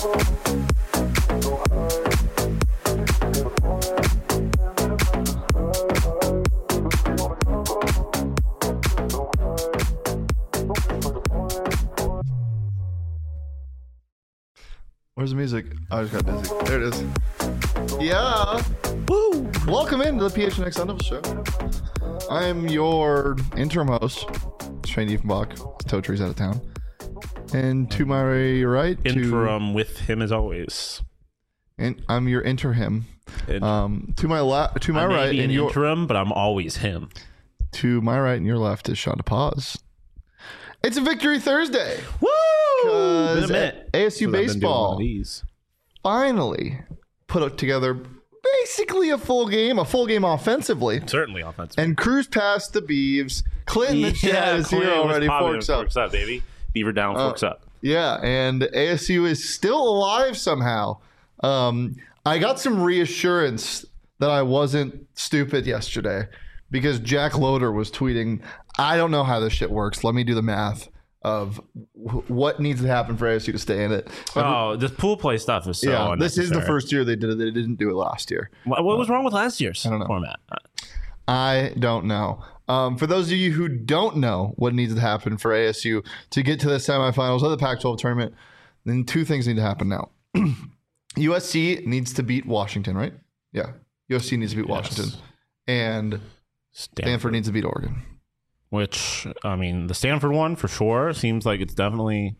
Where's the music? I just got dizzy. There it is. Yeah. Woo! Welcome into the PHNX Sun Devils Show. I am your interim host, Shane Diefenbach. Toe Tree's out of town. And to my right... Interim with him as always. And I'm your interim. To my right... Maybe an interim, but I'm always him. To my right and your left is Sean DePaz. It's a Victory Thursday. Woo! Because ASU baseball finally put together basically a full game offensively. Certainly offensively. And cruise past the Beavs. Clinton the chat is here already. Forks up. Forks up, baby. Beaver down, forks up. Yeah, and ASU is still alive somehow. I got some reassurance that I wasn't stupid yesterday because Jack Loader was tweeting, I don't know how this shit works. Let me do the math of what needs to happen for ASU to stay in it. This pool play stuff is so unnecessary. This is the first year they did it. They didn't do it last year. What was wrong with last year's format? I don't know. For those of you who don't know what needs to happen for ASU to get to the semifinals of the Pac-12 tournament, then two things need to happen now. USC needs to beat Washington, right? Yeah. USC needs to beat Washington. And Stanford needs to beat Oregon. Which, I mean, the Stanford one for sure seems like it's definitely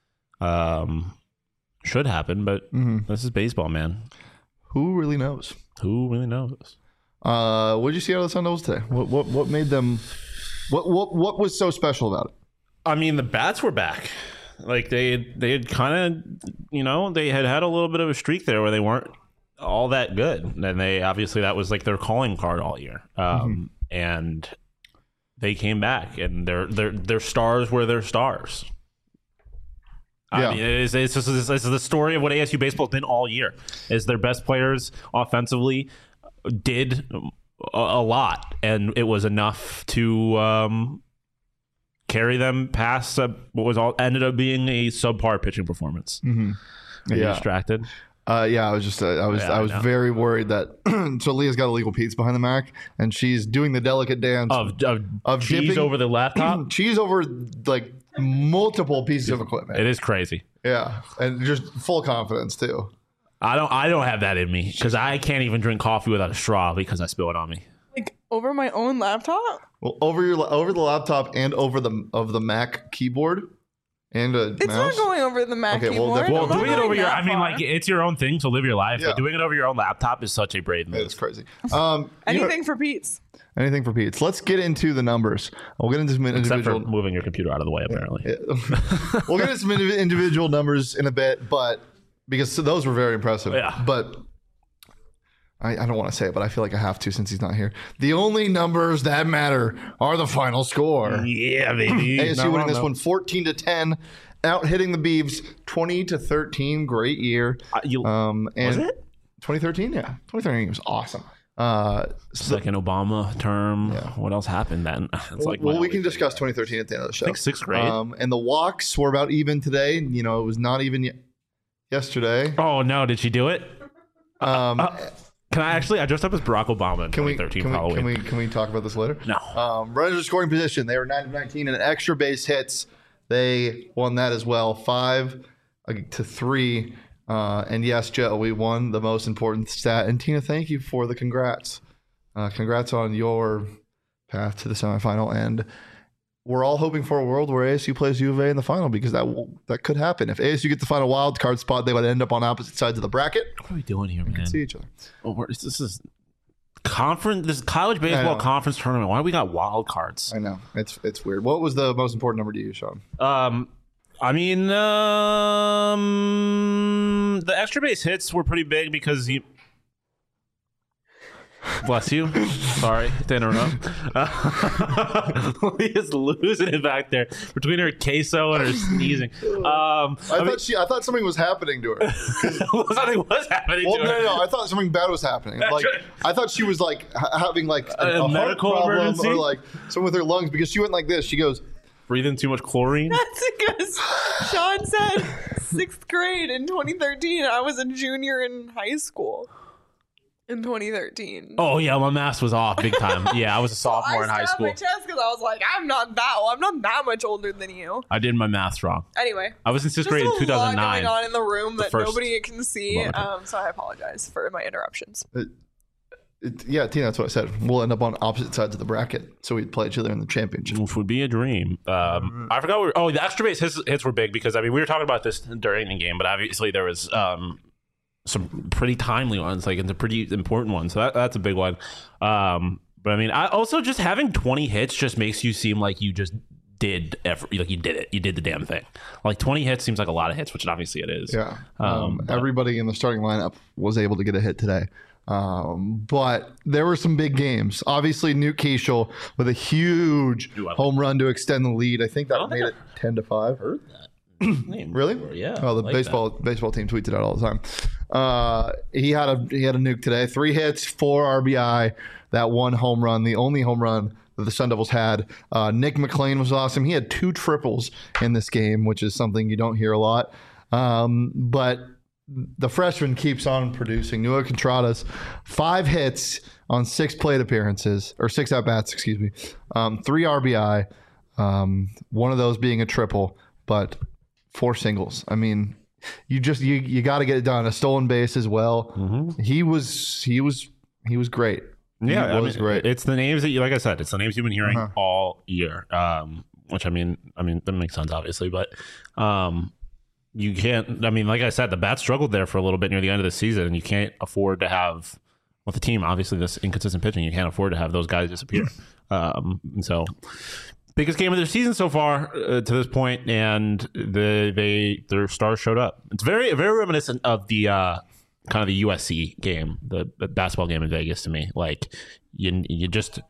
should happen, but this is baseball, man. Who really knows? Who really knows? What did you see out of the Sun Devils today? What made them? What was so special about it? I mean, the bats were back. Like they had kind of, they had a little bit of a streak there where they weren't all that good, and they obviously that was like their calling card all year. And they came back, and their stars were their stars. I mean, it's the story of what ASU baseball did all year. Is their best players offensively did a lot, and it was enough to carry them past what ended up being a subpar pitching performance. Are you distracted? I was very worried that so Leah's got illegal Pete's behind the Mac, and she's doing the delicate dance of cheese dipping, over the laptop, cheese over like multiple pieces of equipment. It is crazy. Yeah, and just full confidence too. I don't have that in me because I can't even drink coffee without a straw because I spill it on me. Like over my own laptop? Well, over the laptop and over the Mac keyboard. And it's mouse? not going over the Mac keyboard. Well, doing it over your, it's your own thing, so live your life. Yeah. But doing it over your own laptop is such a brave move. It's crazy. Anything for Pete's. Anything for Pete's. Let's get into the numbers. We'll get into some individual. Except for moving your computer out of the way, apparently. Yeah. We'll get into some individual numbers in a bit, but because those were very impressive. Yeah. But I don't want to say it, but I feel like I have to since he's not here. The only numbers that matter are the final score. Yeah, baby. ASU winning this one 14-10, out hitting the Beavs 20-13. Great year. Was it 2013? Yeah, 2013 was awesome. Second Obama term. Yeah. What else happened then? We can discuss 2013 at the end of the show. I think sixth grade. And the walks were about even today. It was not even yesterday. Oh no! Did she do it? Can I dressed up as Barack Obama in 2013 Halloween. Can we talk about this later? No. Runners in scoring position. They were 9 of 19 and extra base hits. They won that as well, 5-3. And yes, Joe, we won the most important stat. And Tina, thank you for the congrats. Congrats on your path to the semifinal. And we're all hoping for a world where ASU plays U of A in the final because that could happen. If ASU gets the final wild card spot, they would end up on opposite sides of the bracket. What are we doing here, man? We can see each other. This is conference. This is college baseball conference tournament. Why do we got wild cards? I know it's weird. What was the most important number to you, Sean? The extra base hits were pretty big because you. Bless you. Sorry to interrupt. Leah's losing it back there between her queso and her sneezing. I thought something was happening to her. Something was happening to her. No. I thought something bad was happening. I thought she was having a medical heart problem emergency or something with her lungs because she went like this. She goes, breathing too much chlorine. That's because Sean said 6th grade in 2013. I was a junior in high school in 2013. Oh yeah, my math was off big time. Yeah, I was a sophomore in high school. I stabbed my chest because I was like, I'm not that much older than you. I did my math wrong. Anyway, I was in 6th grade in 2009. There's a lot going on in the room that nobody can see. So I apologize for my interruptions. Yeah, Tina, that's what I said. We'll end up on opposite sides of the bracket, so we'd play each other in the championship. Which would be a dream. I forgot. The extra base hits were big because we were talking about this during the game, but obviously there was some pretty timely ones, like it's a pretty important one. So that's a big one. But I mean, I also just having 20 hits just makes you seem like you just did you did it. You did the damn thing. Like 20 hits seems like a lot of hits, which obviously it is. Yeah. Everybody in the starting lineup was able to get a hit today. But there were some big games. Obviously, Newt Keishel with a huge home run to extend the lead. I think that made it 10-5. Heard that. Really? Yeah. Oh, the baseball team tweets it out all the time. He had a nuke today. 3 hits, 4 RBI. That 1 home run, the only home run that the Sun Devils had. Nick McLean was awesome. He had 2 triples in this game, which is something you don't hear a lot. But the freshman keeps on producing. Noah Contreras, 5 hits on 6 plate appearances, or 6 at-bats, excuse me. 3 RBI, one of those being a triple, but 4 singles. I mean, you got to get it done. A stolen base as well. Mm-hmm. He was great. Yeah, great. It's the names that like I said, it's the names you've been hearing all year. Which I mean that makes sense, obviously, but you can't. I mean, like I said, the Bats struggled there for a little bit near the end of the season, and you can't afford to have with the team. Obviously, this inconsistent pitching, you can't afford to have those guys disappear. And so, biggest game of their season so far to this point, and their stars showed up. It's very reminiscent of the kind of the USC game, the basketball game in Vegas to me. Like you needed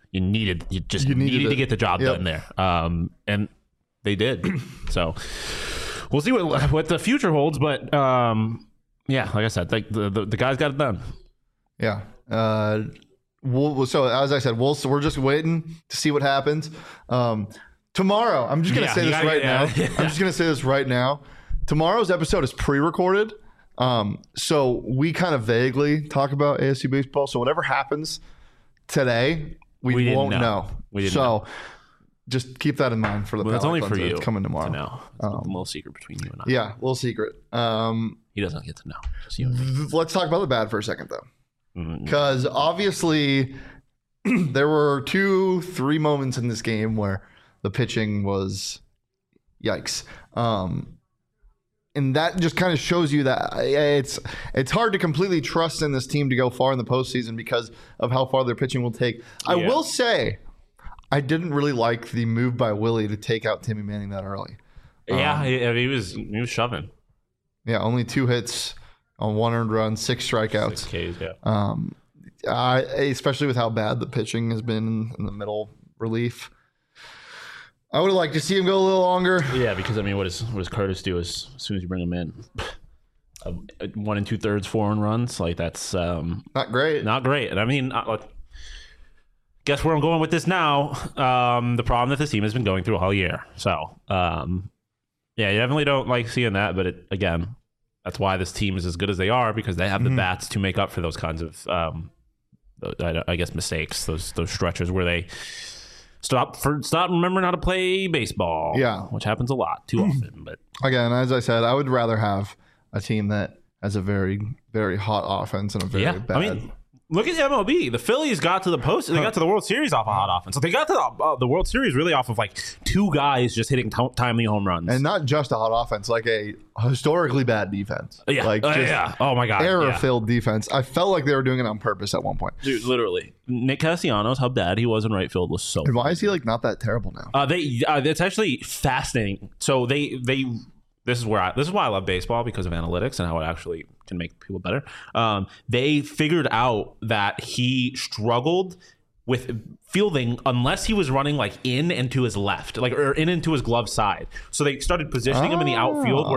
to get the job done there, and they did. So. We'll see what the future holds, but yeah, like I said, like the guys got it done. Yeah. So as I said, we're just waiting to see what happens. Tomorrow, I'm just gonna say this right now. I'm just gonna say this right now. Tomorrow's episode is pre-recorded, so we kind of vaguely talk about ASU baseball. So whatever happens today, we won't know. We didn't know. Just keep that in mind for the. Well, that's only for you. Coming tomorrow. No, a little secret between you and I. Yeah, little secret. He doesn't get to know. Just you and me. Let's talk about the bad for a second, though, because obviously there were 2-3 moments in this game where the pitching was, yikes, and that just kind of shows you that it's hard to completely trust in this team to go far in the postseason because of how far their pitching will take. I will say. I didn't really like the move by Willie to take out Timmy Manning that early. Yeah, he was shoving. Yeah, only 2 hits on 1 earned run, 6 strikeouts. 6 Ks, yeah. Especially with how bad the pitching has been in the middle relief. I would have liked to see him go a little longer. Yeah, because I mean, what does Curtis do as soon as you bring him in? 1 2/3 4 runs, like that's not great. Not great. And I mean. Guess where I'm going with this now. The problem that this team has been going through all year. So, yeah, you definitely don't like seeing that. But again, that's why this team is as good as they are because they have the bats to make up for those kinds of, I guess, mistakes. Those stretches where they stop remembering how to play baseball. Yeah, which happens a lot too often. But again, as I said, I would rather have a team that has a very, very hot offense and a very bad. I mean, look at MLB. The Phillies got to the post. They got to the World Series off a hot offense. So they got to the World Series really off of like 2 guys just hitting timely home runs, and not just a hot offense, like a historically bad defense. Yeah, like Oh my god, error-filled defense. I felt like they were doing it on purpose at one point. Dude, literally, Nick Castellanos, how bad he was in right field was so. And why is he like not that terrible now? It's actually fascinating. So This is why I love baseball because of analytics and how it actually can make people better. They figured out that he struggled with fielding unless he was running like in and to his left, like or in and to his glove side. So they started positioning him in the outfield where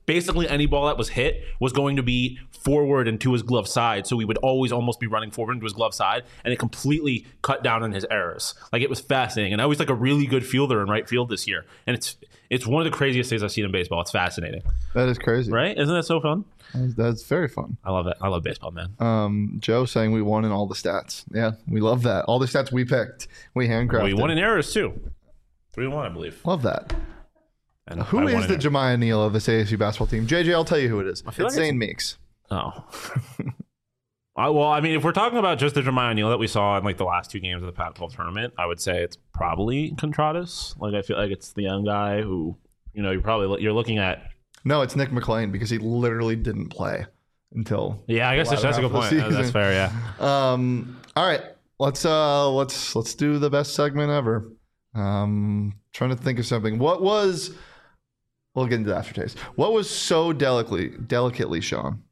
basically any ball that was hit was going to be forward and to his glove side. So we would always almost be running forward into his glove side, and it completely cut down on his errors. Like, it was fascinating. And I was like a really good fielder in right field this year. And it's one of the craziest things I've seen in baseball. It's fascinating. That is crazy. Right? Isn't that so fun? That's very fun. I love it. I love baseball, man. Joe saying we won in all the stats. Yeah, we love that. All the stats we picked, we handcrafted. We won in errors too. 3-1, I believe. Love that. And Who is the Jemiah Neal of this ASU basketball team? JJ, I'll tell you who it is. It's Zane Meeks. Oh. Well, I mean, if we're talking about just the Jemiah Neal that we saw in like the last 2 games of the Pac-12 tournament, I would say it's probably Contradas. Like, I feel like it's the young guy who, you're looking at. No, it's Nick McLean, because he literally didn't play until. Yeah, I guess that's a good point. That's fair. Yeah. All right, let's do the best segment ever. Trying to think of something. We'll get into the aftertaste. What was so delicately, Sean?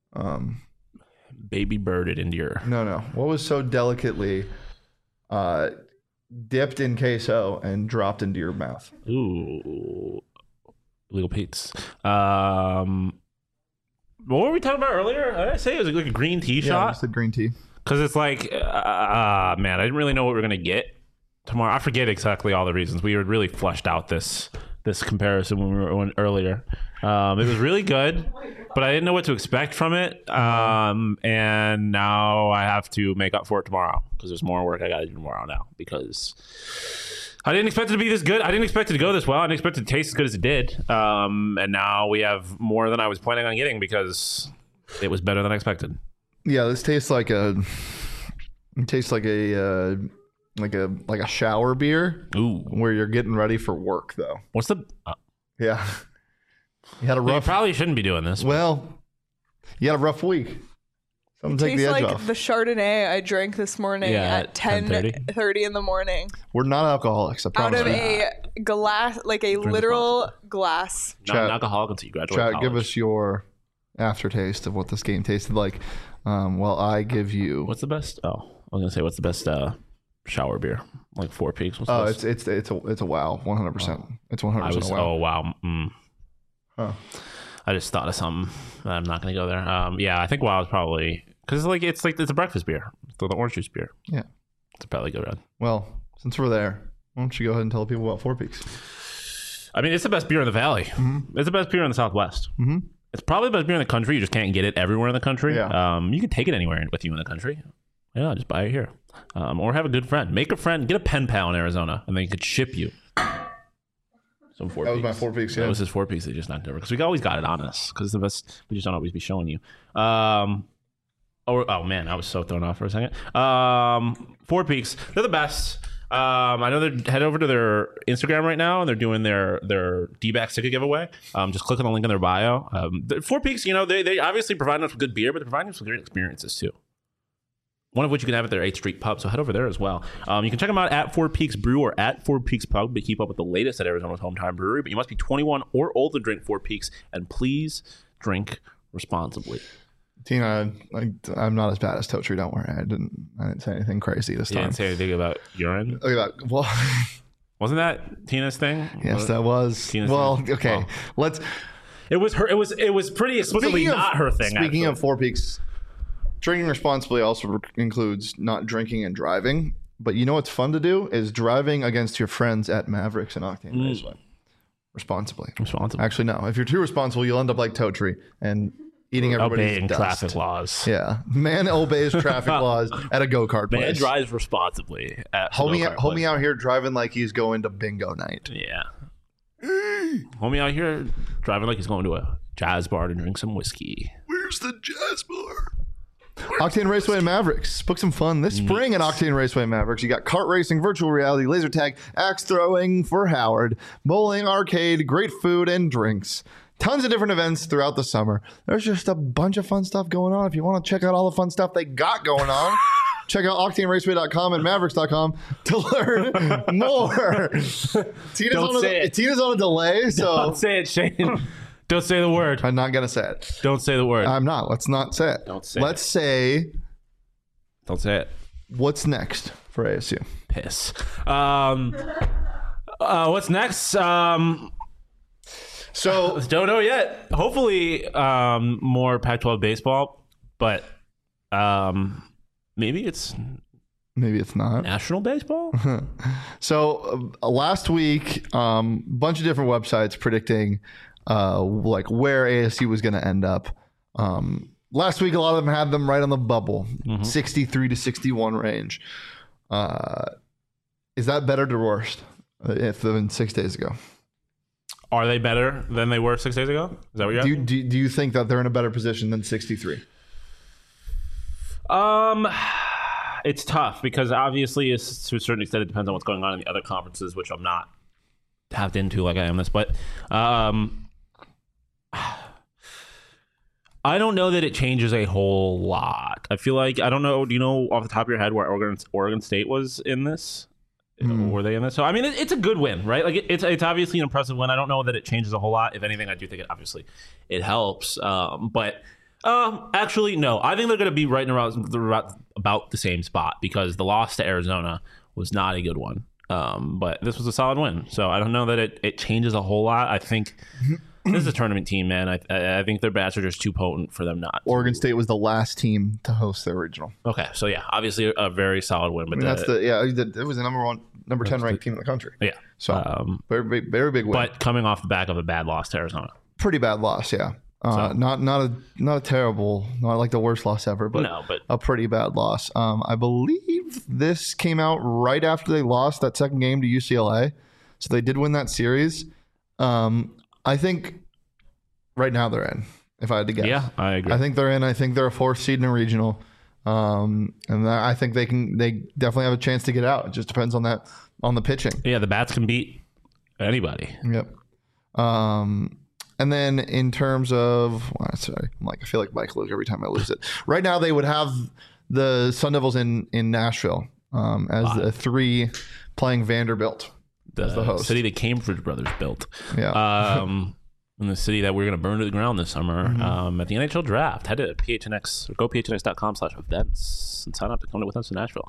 Baby birded into your. No. What was so delicately dipped in queso and dropped into your mouth? Ooh, Legal Pete's. What were we talking about earlier? Did I say it was like a green tea shot? Yeah, it's a green tea. Because it's like, man, I didn't really know what we were gonna get tomorrow. I forget exactly all the reasons. We had really fleshed out this comparison when we were earlier. It was really good, but I didn't know what to expect from it. And now I have to make up for it tomorrow, because there's more work I got to do tomorrow now, because I didn't expect it to be this good. I didn't expect it to go this well. I didn't expect it to taste as good as it did. And now we have more than I was planning on getting, because it was better than I expected. Yeah, this tastes like a shower beer. Ooh. Where you're getting ready for work, though. What's the? Yeah. You had a rough. You probably shouldn't be doing this. Well, you had a rough week. Something take the edge off. The Chardonnay I drank this morning at 10:30 in the morning. We're not alcoholics. I promise. Out of a glass, like a literal glass. Not an alcoholic until you graduate college. Give us your aftertaste of what this game tasted like. Well, I give you. What's the best? Oh, I was gonna say, what's the best shower beer? Like Four Peaks. Oh, it's a wow, 100%. It's 100% a wow. Oh wow. Huh. I just thought of something. I'm not gonna go there. Yeah, I think wow is probably, because it's a breakfast beer. It's the orange juice beer. Yeah, it's probably go red. Well, since we're there, why don't you go ahead and tell people about Four Peaks? I mean, it's the best beer in the valley. Mm-hmm. It's the best beer in the Southwest. Mm-hmm. It's probably the best beer in the country. You just can't get it everywhere in the country. Yeah. You can take it anywhere with you in the country. Yeah, just buy it here. Or have a good friend. Make a friend. Get a pen pal in Arizona, and they could ship you some Four Peaks. That was my Four Peaks, yeah. That was his Four Peaks. They just knocked over. Because we always got it on us. Because it's the best. We just don't always be showing you. Oh, man. I was so thrown off for a second. Four Peaks. They're the best. I know they're head over to their Instagram right now, and they're doing their D-back ticket giveaway. Just click on the link in their bio. Four Peaks, they obviously provide us with good beer, but they're providing us with great experiences too. One of which you can have at their 8th Street Pub, so head over there as well. You can check them out at Four Peaks Brew or at Four Peaks Pub to keep up with the latest at Arizona's hometown brewery. But you must be 21 or older to drink Four Peaks, and please drink responsibly. Tina, I'm not as bad as Totri. Don't worry. I didn't say anything crazy this time. You didn't say anything about urine? Well, wasn't that Tina's thing? Yes, that was. Tina's thing. Okay. Well, Let's. It was her. It was pretty explicitly not her thing. Speaking of Four Peaks, drinking responsibly also includes not drinking and driving. But you know what's fun to do is driving against your friends at Mavericks and Octane Raceway. Responsibly. Actually, no. If you're too responsible, you'll end up like Totri and eating everybody's obeying dust. Traffic laws. Yeah, man obeys traffic laws at a go-kart place. Man drives responsibly at homie out here driving like he's going to bingo night. Yeah. Homie out here driving like he's going to a jazz bar to drink some whiskey. Where's the jazz bar? Octane Raceway and Mavericks. Book some fun this spring at Octane Raceway and Mavericks. You got kart racing, virtual reality, laser tag, axe throwing for Howard, bowling, arcade, great food and drinks. Tons of different events throughout the summer. There's just a bunch of fun stuff going on. If you want to check out all the fun stuff they got going on, check out octaneraceway.com and mavericks.com to learn more. Tina's on a delay, so don't say it, Shane. Don't say the word. I'm not gonna say it. Don't say the word. I'm not. Let's not say it. Don't say Let's say. Don't say it. What's next for ASU? Piss. What's next? So Don't know yet. Hopefully, more Pac-12 baseball, but maybe it's not. national baseball. So last week, bunch of different websites predicting like where ASU was going to end up. Last week, a lot of them had them right on the bubble, 63 to 61 range. Is that better or worse than 6 days ago? Are they better than they were 6 days ago? Is that what you're asking? Do you think that they're in a better position than 63? It's tough because obviously, to a certain extent, it depends on what's going on in the other conferences, which I'm not tapped into like I am this. But I don't know that it changes a whole lot. I feel like, I don't know, do you know off the top of your head where Oregon State was in this? Were they in this? So, I mean, it's a good win, right? Like, it's obviously an impressive win. I don't know that it changes a whole lot. If anything, I do think it helps. But actually, no. I think they're going to be right around about the same spot because the loss to Arizona was not a good one. But this was a solid win. So I don't know that it changes a whole lot. I think this is a tournament team, man. I think their bats are just too potent for them not. Oregon State was the last team to host their regional. Okay, so yeah, obviously a very solid win. But it was the number 10 ranked team in the country. Yeah, so very big win. But coming off the back of a bad loss to Arizona. Pretty bad loss, yeah. Not a terrible, not like the worst loss ever, but a pretty bad loss. I believe this came out right after they lost that second game to UCLA, so they did win that series. I think right now they're in. If I had to guess, yeah, I agree. I think they're in. I think they're a fourth seed in a regional, and I think they definitely have a chance to get out. It just depends on the pitching. Yeah, the bats can beat anybody. Yep. And then in terms of, I feel like Mike Luke every time I lose it. Right now they would have the Sun Devils in Nashville as the 3 playing Vanderbilt as the host. City the Cambridge brothers built. Yeah. In the city that we're going to burn to the ground this summer at the NHL draft. Head to PHNX or go phnx.com/events and sign up to come with us to Nashville.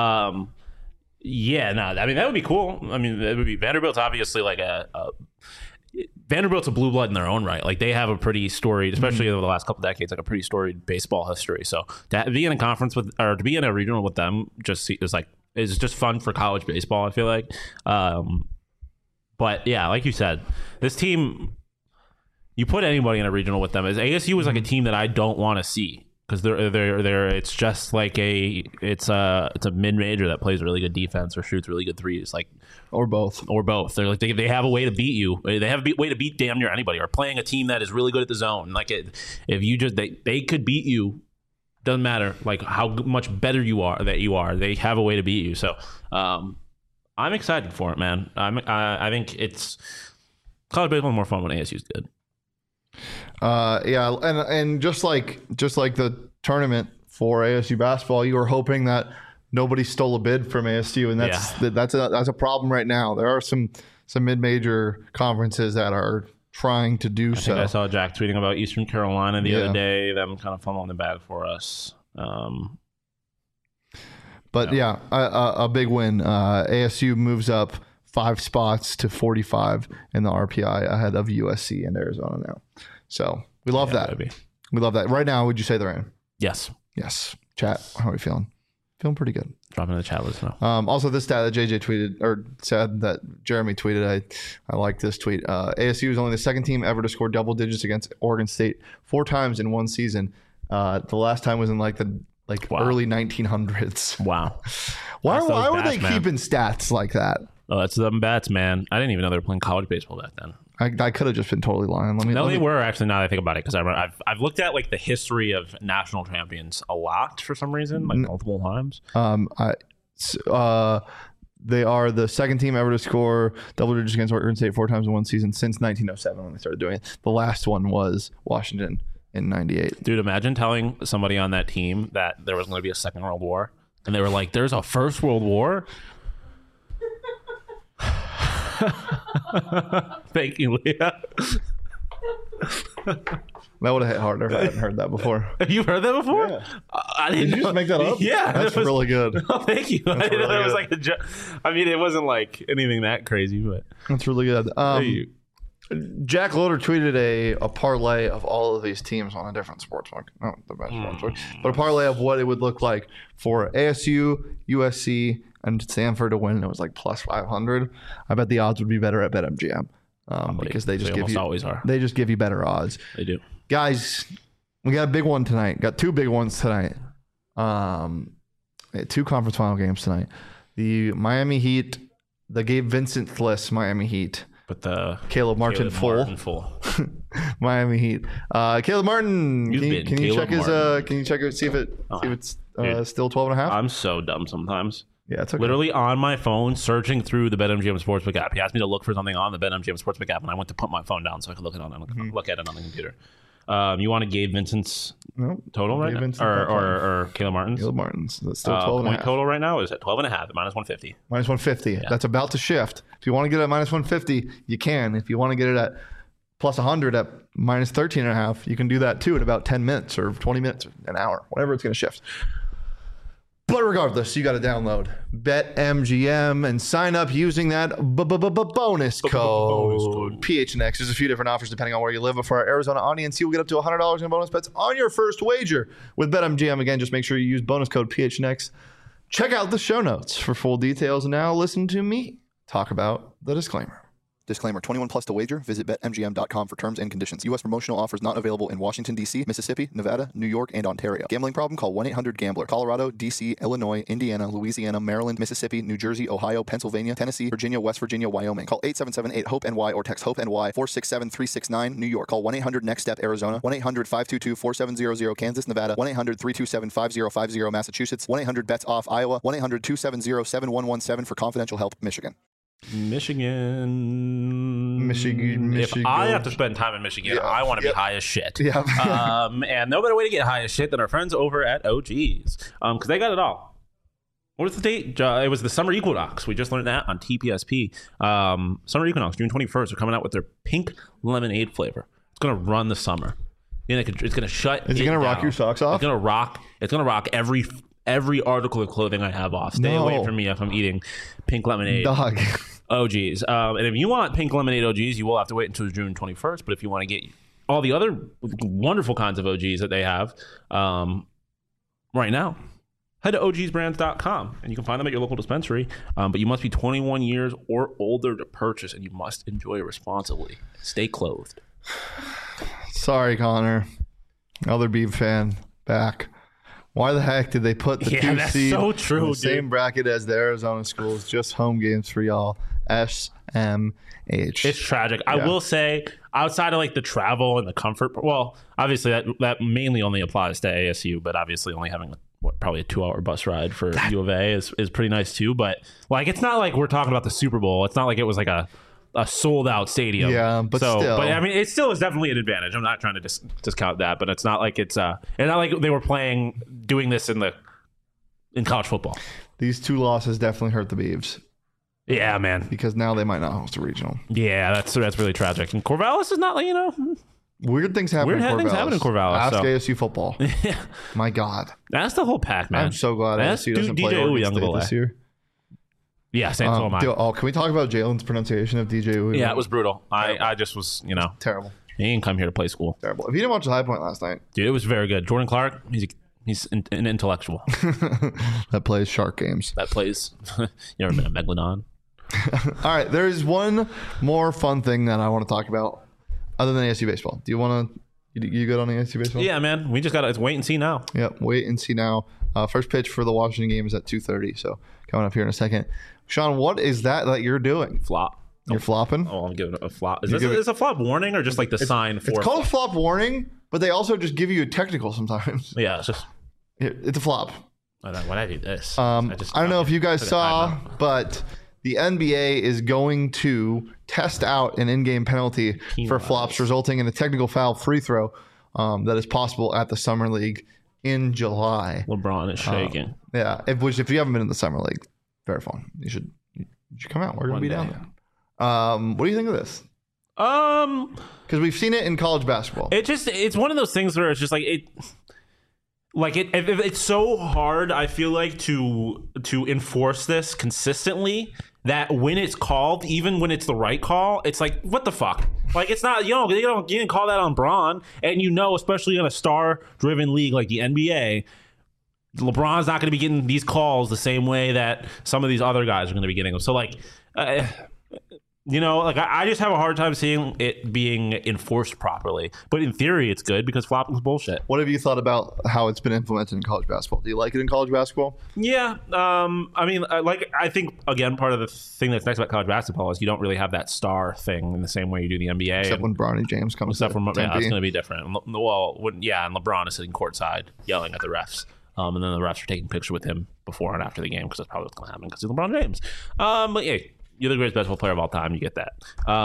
Yeah, no, I mean, that would be cool. I mean, it would be Vanderbilt's obviously like Vanderbilt's a blue blood in their own right. Like they have a pretty storied, especially over the last couple decades, like a pretty storied baseball history. So to be in a conference with, or to be in a regional with them, is just fun for college baseball. I feel like, but yeah, like you said, this team, you put anybody in a regional with them. As ASU is like a team that I don't want to see. Because they're it's just like it's a mid-major that plays really good defense or shoots really good threes, like or both. They're like they have a way to beat you. They have a way to beat damn near anybody. Or playing a team that is really good at the zone. Like if you just they could beat you. Doesn't matter like how much better you are. They have a way to beat you. So I'm excited for it, man. I think it's college baseball is more fun when ASU's good. Yeah, and just like the tournament for ASU basketball, you were hoping that nobody stole a bid from ASU, and that's a problem right now. There are some mid-major conferences that are trying to do so. I saw Jack tweeting about Eastern Carolina the other day, them kind of fumbling the bag for us. But a big win. ASU moves up 5 spots to 45 in the RPI ahead of USC and Arizona now. So we love that. Maybe. We love that. Right now, would you say they're in? Yes. Chat, how are we feeling? Feeling pretty good. Drop in the chat, let us know. Also, this stat that JJ tweeted, or said that Jeremy tweeted, I like this tweet. ASU is only the second team ever to score double digits against Oregon State 4 times in one season. The last time was in early 1900s. Wow. Why were they keeping stats like that? Oh, that's them bats, man. I didn't even know they were playing college baseball back then. I could have just been totally lying. They were actually, now that I think about it, because I've looked at like the history of national champions a lot for some reason, like multiple times. They are the second team ever to score double digits against Oregon State 4 times in one season since 1907 when they started doing it. The last one was Washington in 98. Dude, imagine telling somebody on that team that there was going to be a Second World War, and they were like, "There's a First World War." Thank you, Leah. That would have hit harder if I hadn't heard that before. You've heard that before? Yeah. I didn't Did you just make that up? Yeah. That's really good. Oh, thank you. I didn't know that was like a joke. I mean, it wasn't like anything that crazy, but that's really good. Jack Loader tweeted a parlay of all of these teams on a different sportsbook. Not the best sportsbook, but a parlay of what it would look like for ASU, USC, and Stanford to win. It was like plus 500. I bet the odds would be better at BetMGM because they just give you always are. They just give you better odds. They do. Guys, we got a big one tonight. Got two big ones tonight. Two conference final games tonight. The Miami Heat, the Gabe Vincent-less Miami Heat. But the Caleb Martin full Miami Heat. Caleb Martin, can you check his? Can you check it? See if it's still 12.5. I'm so dumb sometimes. Yeah, it's okay. Literally on my phone, searching through the BetMGM Sportsbook app. He asked me to look for something on the BetMGM Sportsbook app, and I went to put my phone down so I could look at it on the computer. You want to Gabe Vincent's total right now? Or Caleb Martin's? Caleb Martin's. That's still 12.5. Point total right now is at 12.5 at minus 150. Minus 150. Yeah. That's about to shift. If you want to get it at minus 150, you can. If you want to get it at plus 100 at minus 13.5, you can do that too in about 10 minutes or 20 minutes or an hour, whatever it's going to shift. But regardless, you got to download BetMGM and sign up using that bonus code PHNX. There's a few different offers depending on where you live. But for our Arizona audience, you'll get up to $100 in bonus bets on your first wager with BetMGM. Again, just make sure you use bonus code PHNX. Check out the show notes for full details. And now listen to me talk about the disclaimer. Disclaimer, 21 plus to wager. Visit BetMGM.com for terms and conditions. U.S. promotional offers not available in Washington, D.C., Mississippi, Nevada, New York, and Ontario. Gambling problem? Call 1-800-GAMBLER. Colorado, D.C., Illinois, Indiana, Louisiana, Maryland, Mississippi, New Jersey, Ohio, Pennsylvania, Tennessee, Virginia, West Virginia, Wyoming. Call 877-8-HOPE-NY or text HOPE-NY 467-369, New York. Call 1-800-NEXT-STEP, Arizona. 1-800-522-4700, Kansas, Nevada. 1-800-327-5050, Massachusetts. 1-800-BETS-OFF, Iowa. 1-800-270-7117 for confidential help, Michigan. Michigan. If I have to spend time in Michigan, I want to be high as shit. Yeah. And no better way to get high as shit than our friends over at OG's, because they got it all. What was the date? It was the summer equinox. We just learned that on TPSP. Summer equinox, June 21st. They're coming out with their pink lemonade flavor. It's gonna run the summer. And it's gonna shut. Is it gonna rock down. your socks off? It's gonna rock every article of clothing I have off. Stay away from me if I'm eating pink lemonade. Dog. OGs. And if you want pink lemonade OGs, you will have to wait until June 21st. But if you want to get all the other wonderful kinds of OGs that they have right now, head to ogsbrands.com and you can find them at your local dispensary. But you must be 21 years or older to purchase, and you must enjoy responsibly. Stay clothed. Sorry, Connor. Other Beav fan back. Why the heck did they put the 2 seed so true, in the same bracket as the Arizona schools? Just home games for y'all. SMH. It's tragic. I will say, outside of like the travel and the comfort, well, obviously that mainly only applies to ASU, but obviously only having probably a 2-hour bus ride for U of A is pretty nice too. But like, it's not like we're talking about the Super Bowl. It's not like it was like a sold out stadium. Yeah, but still. But I mean, it still is definitely an advantage. I'm not trying to discount that, but it's not like it's not like they were doing this in college football. These 2 losses definitely hurt the Beavs. Yeah, man. Because now they might not host a regional. Yeah, that's really tragic. And Corvallis is not like, weird things happen in Corvallis. Ask ASU football. Yeah. My God. That's the whole pack, man. I'm so glad ASU doesn't play DJ Oregon State this year. Yeah, so am I. Can we talk about Jalen's pronunciation of DJ Uyunglele? Yeah, it was brutal. I just was, Terrible. He didn't come here to play school. Terrible. If you didn't watch the High Point last night. Dude, it was very good. Jordan Clark, he's an intellectual. That plays shark games. That plays. You ever been a Megalodon? All right, there's one more fun thing that I want to talk about other than ASU baseball. Do you want to? You good on ASU baseball? Yeah, man. We just got to wait and see now. Yep, wait and see now. First pitch for the Washington game is at 2:30, so coming up here in a second. Sean, what is that you're doing? Flop. You're flopping? Oh, I'm giving it a flop. Is this a flop warning or just like the sign for? It's called a flop warning, but they also just give you a technical sometimes. Yeah, it's just. It's a flop. Why'd I do this? I don't know if you guys saw, but the NBA is going to test out an in-game penalty for flops, resulting in a technical foul free throw that is possible at the Summer League in July. LeBron is shaking. Yeah, if you haven't been in the Summer League, very fun. You should come out. We're going to be down there. What do you think of this? Because we've seen it in college basketball. It's one of those things where it's just like it. Like it's so hard, I feel like, to enforce this consistently that when it's called, even when it's the right call, it's like, what the fuck? Like, it's not, you didn't call that on Bron. And especially in a star-driven league like the NBA, LeBron's not going to be getting these calls the same way that some of these other guys are going to be getting them. So, like, I just have a hard time seeing it being enforced properly. But in theory, it's good because flopping is bullshit. What have you thought about how it's been implemented in college basketball? Do you like it in college basketball? Yeah. I think, again, part of the thing that's nice about college basketball is you don't really have that star thing in the same way you do the NBA. Except when Bronny James comes Except to it's Tempe. going to be different. And LeBron is sitting courtside yelling at the refs. And then the refs are taking pictures with him before and after the game because that's probably what's going to happen because he's LeBron James. But yeah, you're the greatest basketball player of all time. You get that.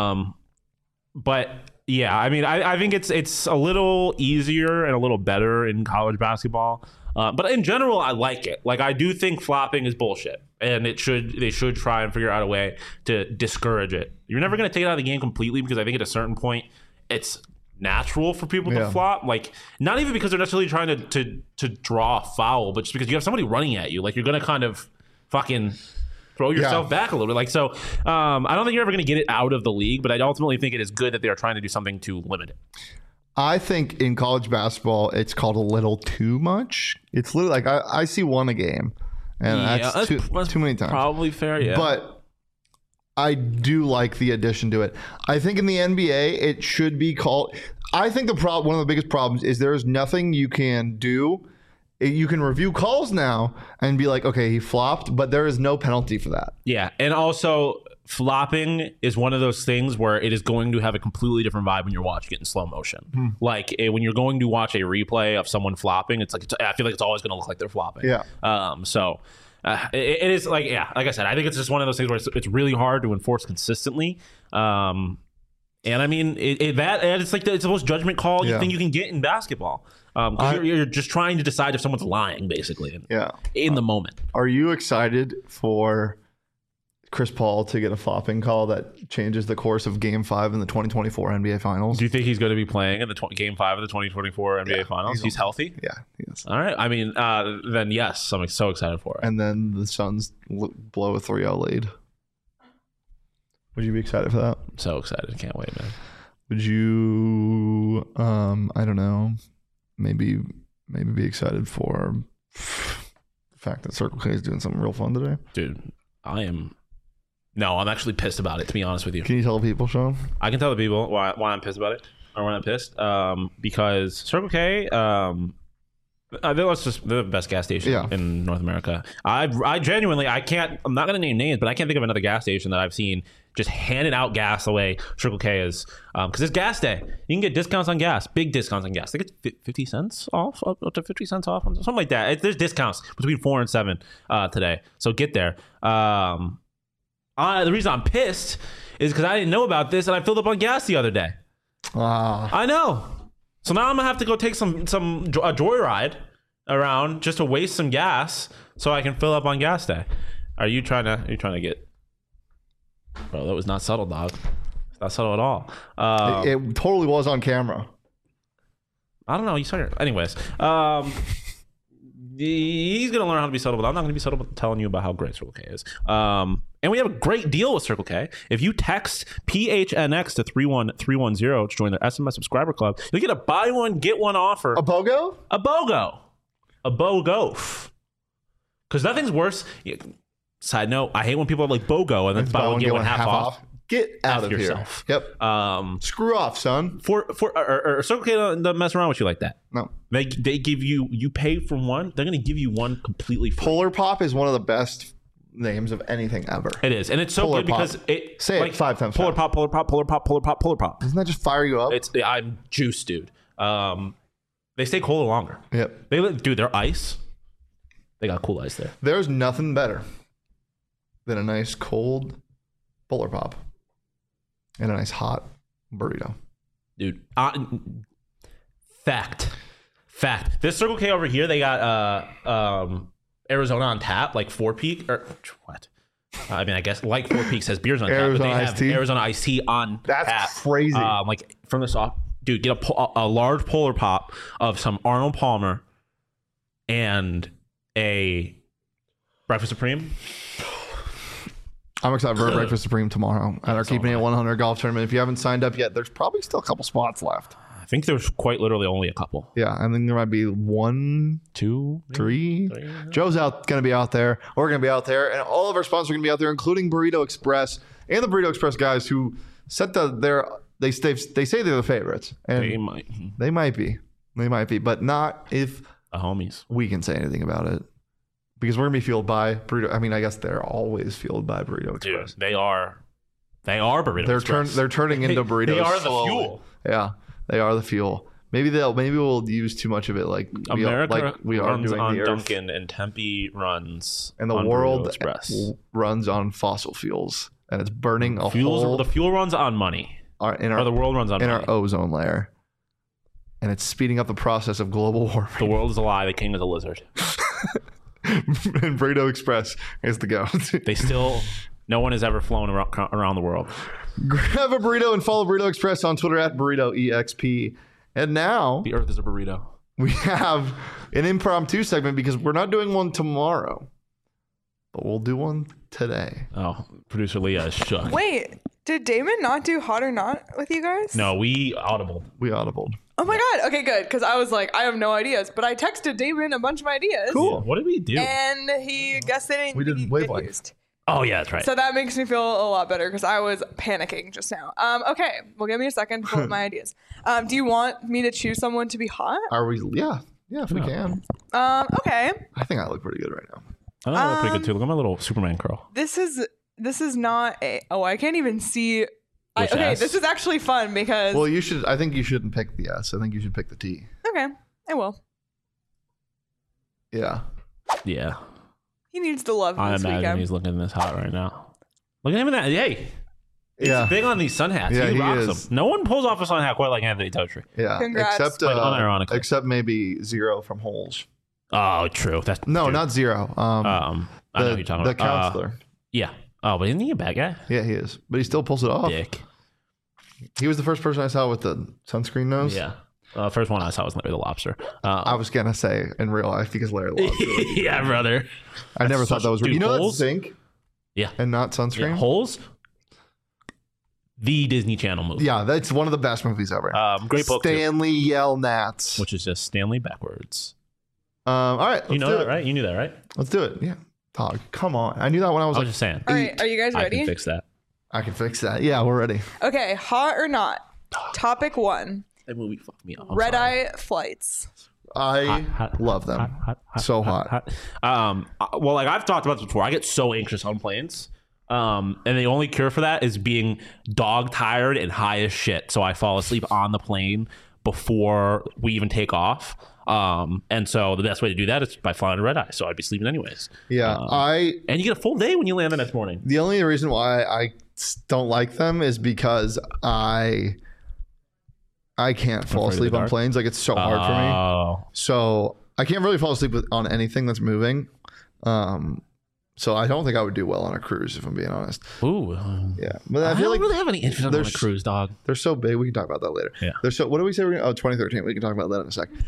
But yeah, I mean, I think it's a little easier and a little better in college basketball. But in general, I like it. Like, I do think flopping is bullshit, and they should try and figure out a way to discourage it. You're never going to take it out of the game completely because I think at a certain point, it's natural for people to flop. Like, not even because they're necessarily trying to draw a foul, but just because you have somebody running at you. Like, you're going to kind of fucking throw yourself back a little bit. Like, so I don't think you're ever going to get it out of the league, but I ultimately think it is good that they are trying to do something to limit it. I think in college basketball, it's called a little too much. It's literally like I see one a game, and that's too many times. Probably fair, yeah. But I do like the addition to it. I think in the NBA, it should be called. I think one of the biggest problems is there is nothing you can do. You can review calls now and be like, okay, he flopped, but there is no penalty for that. Yeah, and also flopping is one of those things where it is going to have a completely different vibe when you're watching it in slow motion. Like, when you're going to watch a replay of someone flopping, it's like I feel like it's always going to look like they're flopping. Yeah. It is like, yeah, like I said, I think it's just one of those things where it's really hard to enforce consistently. And I mean, it's like it's the most judgment call you think you can get in basketball. You're just trying to decide if someone's lying, basically. In the moment. Are you excited for Chris Paul to get a flopping call that changes the course of Game 5 in the 2024 NBA Finals? Do you think he's going to be playing in the Game 5 of the 2024 NBA Finals? He's healthy? Yeah, he is. All right. I mean, then yes, I'm so excited for it. And then the Suns blow a 3-0 lead. Would you be excited for that? I'm so excited. Can't wait, man. Would you, I don't know, maybe be excited for the fact that Circle K is doing something real fun today? Dude, I'm actually pissed about it, to be honest with you. Can you tell the people, Sean? I can tell the people why I'm pissed about it, or when I'm pissed. Because Circle K, they're the best gas station in North America. I genuinely, I'm not going to name names, but I can't think of another gas station that I've seen just handing out gas the way Circle K is. Because it's gas day. You can get discounts on gas, big discounts on gas. They get 50 cents off, up to 50 cents off, something like that. There's discounts between 4 and 7 today. So get there. The reason I'm pissed is because I didn't know about this and I filled up on gas the other day. I know. So now I'm gonna have to go take a joyride around just to waste some gas so I can fill up on gas day. Are you trying to get? Bro, that was not subtle, dog. Not subtle at all. It totally was on camera. I don't know. You saw your. Anyways, he's gonna learn how to be subtle, but I'm not gonna be subtle about telling you about how great Circle K is. And we have a great deal with Circle K. If you text PHNX to 31310 to join their SMS subscriber club, you'll get a buy one, get one offer. A BOGO? A BOGO. A BOGO. Because nothing's worse. Side note, I hate when people are like BOGO and then buy one, get one half off. Get out of yourself. Here. Yep. Screw off, son. Or Circle K doesn't mess around with you like that. No. They give you pay for one, they're going to give you one completely free. Polar Pop is one of the best names of anything ever. It is, and it's so Polar good Pop. because it say it 5 times. Polar Pop, Polar Pop, Polar Pop, Polar Pop, Polar Pop. Doesn't that just fire you up? I'm juiced, dude. They stay colder longer. Yep. Dude, their ice. They got cool ice there. There's nothing better than a nice cold Polar Pop and a nice hot burrito. Dude, fact. This Circle K over here, they got Arizona on tap, like Four Peak, or what? I mean, I guess like Four Peaks has beers on tap, but they have Arizona iced tea on tap. That's crazy. Like from the soft, dude, get a large Polar Pop of some Arnold Palmer and a Breakfast Supreme. I'm excited for Breakfast Supreme tomorrow at our Keeping It 100 golf tournament. If you haven't signed up yet, there's probably still a couple spots left. I think there's quite literally only a couple. Yeah, I think there might be 1, 2, 3. Joe's going to be out there. We're going to be out there. And all of our sponsors are going to be out there, including Burrito Express and the Burrito Express guys who set they say they're the favorites. And They might be. But not if the homies. We can say anything about it. Because we're going to be fueled by Burrito. I mean, I guess they're always fueled by Burrito Express. Dude, they are Burrito Express. They're turning into burritos. They are the slowly. fuel. Yeah, they are the fuel. Maybe we'll use too much of it, like America we are runs doing on the Earth. Dunkin' and Tempe runs, And the on world Burrito Express. runs on fossil fuels, and it's burning a The fuel runs on money. or the world runs on in money. our ozone layer, and it's speeding up the process of global warming. The world is a lie. The king is a lizard. And Burrito Express is the go. No one has ever flown around the world. Grab a burrito and follow Burrito Express on Twitter at BurritoEXP. And now The earth is a burrito. we have an impromptu segment because we're not doing one tomorrow, but we'll do one today. Oh, producer Leah is shook. Wait, did Damon not do Hot or Not with you guys? No, we audible. We audibled. Oh my God. Okay, good. Because I was like, I have no ideas. But I texted Damon a bunch of ideas. Cool. What did we do? And he guessed they didn't We did get wavelength. used. Oh yeah, that's right. So that makes me feel a lot better because I was panicking just now. Okay, well, give me a second to pull up my ideas. Do you want me to choose someone to be hot? Are we? Yeah, if we can. Okay. I think I look pretty good right now. I think I look pretty good too. Look at my little Superman curl. This is not a. Oh, I can't even see. Which Okay, S? this is actually fun because. Well, you should. I think you shouldn't pick the S. I think you should pick the T. Okay, I will. Yeah. He needs the love I this imagine weekend. he's looking this hot right now. Look at him in that. Hey, he's Yeah. big on these sun hats. Yeah, he he rocks is. them. No one pulls off a sun hat quite like Anthony Totri. Yeah. Congrats. Unironically. Except maybe Zero from Holes. Oh, true. That's No, dude. not Zero. I know who you're talking the about. counselor. Yeah. Oh, but isn't he a bad guy? Yeah, he is, but he still pulls it off. Dick. He was the first person I saw with the sunscreen nose. Yeah. First one I saw was Larry the Lobster. I was gonna say in real life because Larry Lobster. Yeah, brother. I never thought that was real. Dude, You know that's Holes? zinc Yeah. and not sunscreen. Yeah. Holes. The Disney Channel movie. Yeah, that's one of the best movies ever. Great book too, Stanley Yell Nats. which is just Stanley backwards. All right, You let's know do that, it. right? You knew that, right? Let's do it. Yeah, dog. Come on, I knew that when I was I like, was just saying. All right, are you guys I ready? can fix that. I can fix that. Yeah, we're ready. Okay, hot or not? Topic 1: That movie fucked me up. I'm red sorry. eye flights. I love them. So hot. Well, like I've talked about this before, I get so anxious on planes. And the only cure for that is being dog tired and high as shit. So I fall asleep on the plane before we even take off. And so the best way to do that is by flying a red eye. So I'd be sleeping anyways. Yeah, And you get a full day when you land the next morning. The only reason why I don't like them is because I can't fall Afraid of asleep the on dark? planes. Like it's so hard for me. Oh, So I can't really fall asleep on anything that's moving. So I don't think I would do well on a cruise if I'm being honest. ooh. Yeah, but I I feel don't like really have any interest on a there's- cruise, dog. they're so big. We can talk about that later. Yeah. They're so. What do we say? We're gonna, 2013. We can talk about that in a sec.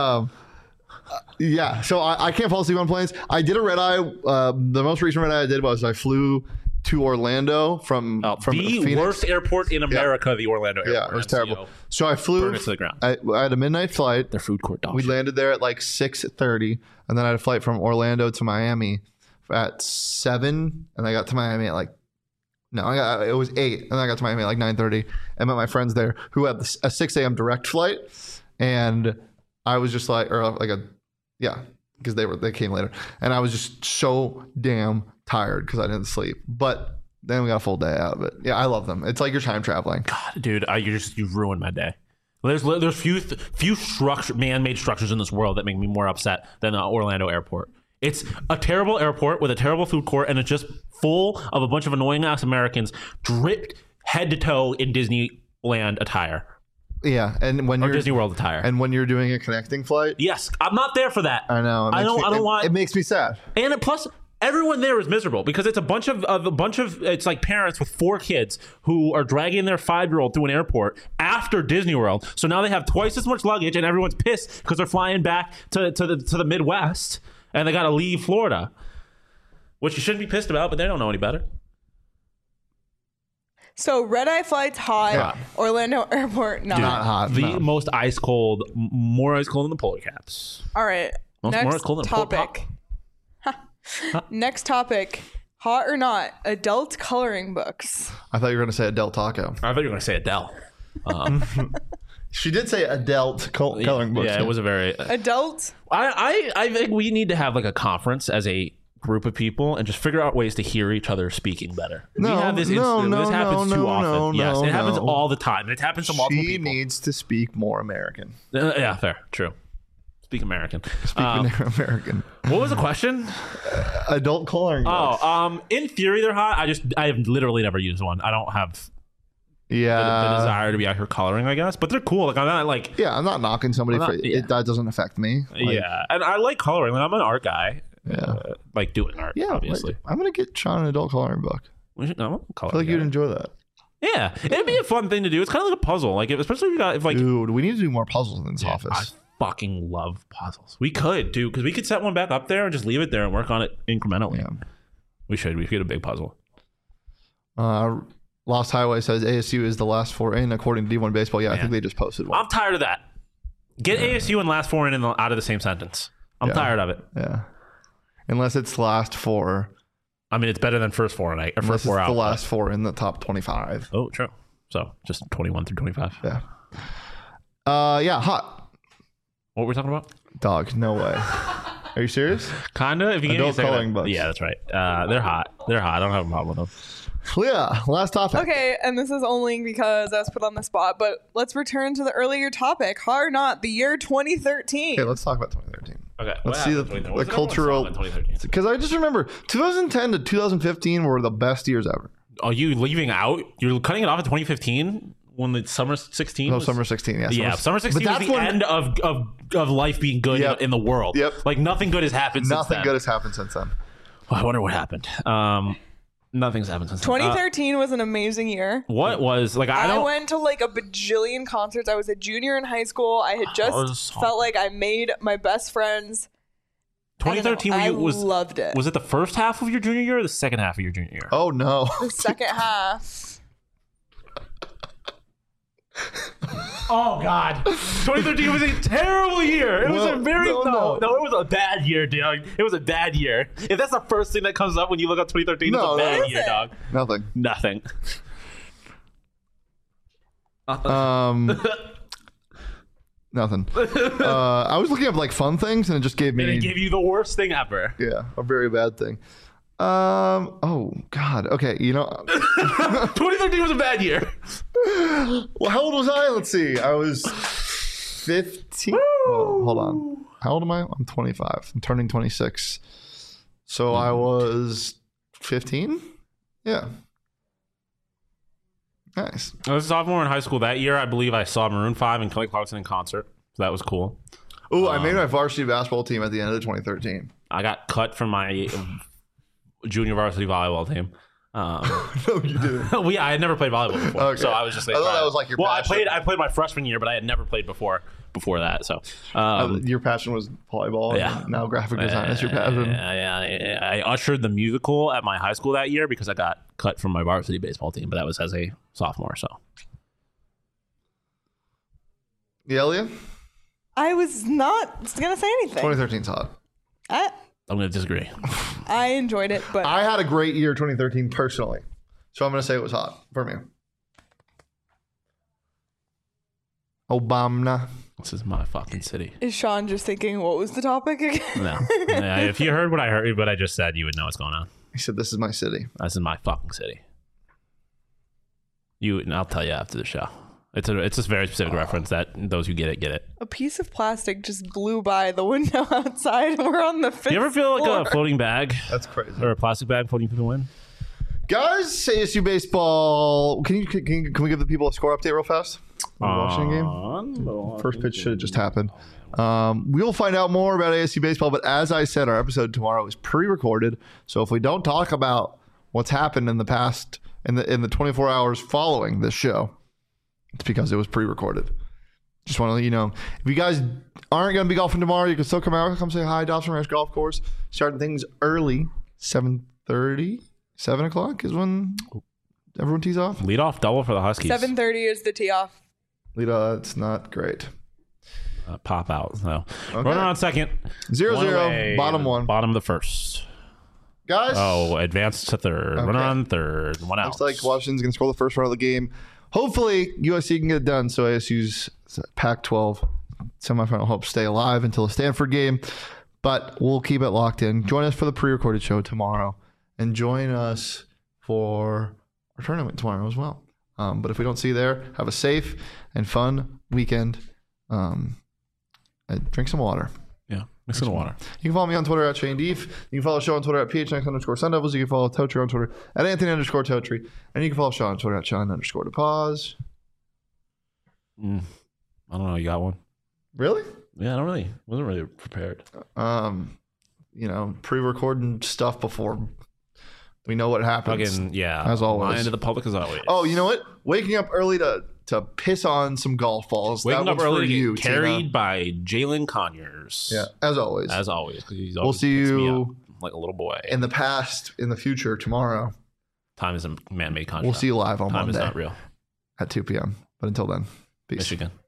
Yeah. So I can't fall asleep on planes. I did a red eye. The most recent red eye I did was I flew to Orlando from The Phoenix. worst airport in America, the Orlando airport. Yeah, it was MCO. terrible. So I flew. Burn it to the ground. I had a midnight flight. Their food court dog. We shit. landed there at like 6:30, and then I had a flight from Orlando to Miami at 7, and I got to Miami at like it was 8, and I got to Miami at like 9:30, and met my friends there who had a 6 a.m. direct flight, and I was just like, because they came later, and I was just so damn tired because I didn't sleep, but. Then we got a full day out of it. Yeah, I love them. It's like you're time traveling. God, dude, you've ruined my day. There's few man-made structures in this world that make me more upset than Orlando Airport. It's a terrible airport with a terrible food court, and it's just full of a bunch of annoying ass Americans dripped head to toe in Disneyland attire Yeah, and when or you're Disney World attire. and when you're doing a connecting flight, Yes, I'm not there for that. I know. I don't want. It makes me sad. And plus, everyone there is miserable because it's a bunch of it's like parents with 4 kids who are dragging their 5-year-old through an airport after Disney World. So now they have twice as much luggage, and everyone's pissed because they're flying back to the Midwest, and they got to leave Florida, which you shouldn't be pissed about, but they don't know any better. So red eye flights hot. Yeah. Orlando Airport not. Not hot. The no. most ice cold, more ice cold than the polar caps. All right. More Next cold than a polar topic. Next topic. Hot or not? Adult coloring books. I thought you were going to say Adele Taco. I thought you were going to say Adele. She did say Adele coloring books. Yeah, it was a very. Adult. I think we need to have like a conference as a group of people and just figure out ways to hear each other speaking better. No, we have this no, this happens too often. Yes, it happens no. all the time. It happens to multiple She people. needs to speak more American. Yeah, fair, true. Speak American. American. What was the question? Adult coloring books. In theory, they're hot. I have literally never used one. I don't have the desire to be out here coloring, I guess. But they're cool. Like I'm not like Yeah, I'm not knocking somebody for it. That doesn't affect me. Like, yeah, and I like coloring. Like, I'm an art guy. Yeah. Like doing art. Yeah, obviously. like, I'm gonna get Sean an adult coloring book. I'm a I feel coloring like guy. you'd enjoy that. Yeah, it'd be a fun thing to do. It's kind of like a puzzle. Like especially if like Dude, we need to do more puzzles in this I office. fucking love puzzles. We could do because we could set one back up there and just leave it there and work on it incrementally. Yeah. We should get a big puzzle. Lost Highway says ASU is the last four in according to D1 Baseball. Yeah, I think they just posted one. I'm tired of that. Get ASU and last four in out of the same sentence. I'm tired of it. Yeah. Unless it's last four. I mean, it's better than first four in or Unless first four it's out. the last four in the top 25. Oh, true. So just 21 through 25. Yeah. Yeah, hot. What were we talking about? Dog, no way. Are you serious? Kinda. If you give me a Adult second. coloring books. Yeah, that's right. They're hot. They're hot. I don't have a problem with them. Yeah, last topic. Okay, and this is only because I was put on the spot, but let's return to the earlier topic. Hot or not, the year 2013. Okay, let's talk about 2013. Okay. Let's see the cultural. 2013. Because I just remember 2010 to 2015 were the best years ever. Are you leaving out? You're cutting it off at 2015 when the summer 16. No, was- summer 16. Yeah, Yeah, summer 16 was the end of life being good Yep. in the world. Yep. Like nothing good has happened since Nothing then. good has happened since then. Well, I wonder what happened. Nothing's happened since then. 2013 was an amazing year. What was like? I I don't. went to like a bajillion concerts. I was a junior in high school. I had just felt like I made my best friends. 2013 I was loved it. Was it the first half of your junior year or the second half of your junior year? Oh, no. The second half. Oh God, 2013 was a terrible year. It was a very no, it was a bad year, dog. It was a bad year. If that's the first thing that comes up when you look up 2013, No, it's a bad what is year, it? dog. Nothing. Nothing. Nothing. I was looking up like fun things and it just gave me And it gave you the worst thing ever. yeah, a very bad thing. Oh God. Okay, 2013 was a bad year. well, how old was I? Let's see. I was 15. Oh, hold on. How old am I? I'm 25. I'm turning 26. So I was 15. Yeah. Nice. I was a sophomore in high school that year. I believe I saw Maroon 5 and Kelly Clarkson in concert. So that was cool. Oh, I made my varsity basketball team at the end of 2013. I got cut from my junior varsity volleyball team. No, you didn't. I had never played volleyball before, Okay. so I was just. I thought that was like your passion. I played my freshman year, but I had never played before that. So, Your passion was volleyball. Yeah. And now graphic design is your passion. I ushered the musical at my high school that year because I got cut from my varsity baseball team, but that was as a sophomore. So, Yeah, Leah? I was not going to say anything. 2013's hot. I'm going to disagree. I enjoyed it, but I had a great year 2013 personally. So I'm going to say it was hot for me. Obama. This is my fucking city. is Sean just thinking, what was the topic again? No, yeah, if you heard what I just said, you would know what's going on. He said, this is my city. This is my fucking city. And I'll tell you after the show. It's a very specific reference that those who get it, get it. A piece of plastic just blew by the window outside. We're on the fifth You ever feel like floor. a floating bag That's crazy. or a plastic bag floating through the wind? Guys, ASU baseball. Can we give the people a score update real fast? On the Washington game? First pitch should have just happened. We'll find out more about ASU baseball, but as I said, our episode tomorrow is pre-recorded. So if we don't talk about what's happened in the past in the 24 hours following this show, it's because it was pre-recorded. Just want to let you know. If you guys aren't going to be golfing tomorrow, you can still come out, come say hi. Dobson Ranch Golf Course, starting things early, 7:30, 7 o'clock is when everyone tees off? Lead off double for the Huskies. 7:30 is the tee off. That's not great. Pop out. So Okay. runner on second. 0-0, bottom one. Bottom of the first. Guys, Oh, advanced to third. Okay. Runner on third. One out. looks like Washington's going to score the first run of the game. Hopefully, USC can get it done so ASU's Pac-12 semifinal hopes stay alive until the Stanford game. But we'll keep it locked in. Join us for the pre-recorded show tomorrow. And join us for our tournament tomorrow as well. But if we don't see you there, have a safe and fun weekend. And drink some water. Yeah. Mix in the water. You can follow me on Twitter at Shane Deef. You can follow the show on Twitter at PHNX_Sun Devils. You can follow Totri on Twitter at Anthony_Totri. And you can follow Sean on Twitter at Sean_DePause. I don't know. You got one? Really? Yeah, wasn't really prepared. Pre-recording stuff before we know what happens. Fucking, yeah. As always. Lying to the public as always. Oh, you know what? Waking up early to piss on some golf balls. Waking that up one's early for to you, get carried Tina. by Jalen Conyers. Yeah, as always. As always. 'Cause he's We'll always see picks me you up like a little boy. in the past, in the future, tomorrow. Time is a man-made contract. We'll see you live on Time Monday is not real. at 2 p.m. But until then, peace. Michigan.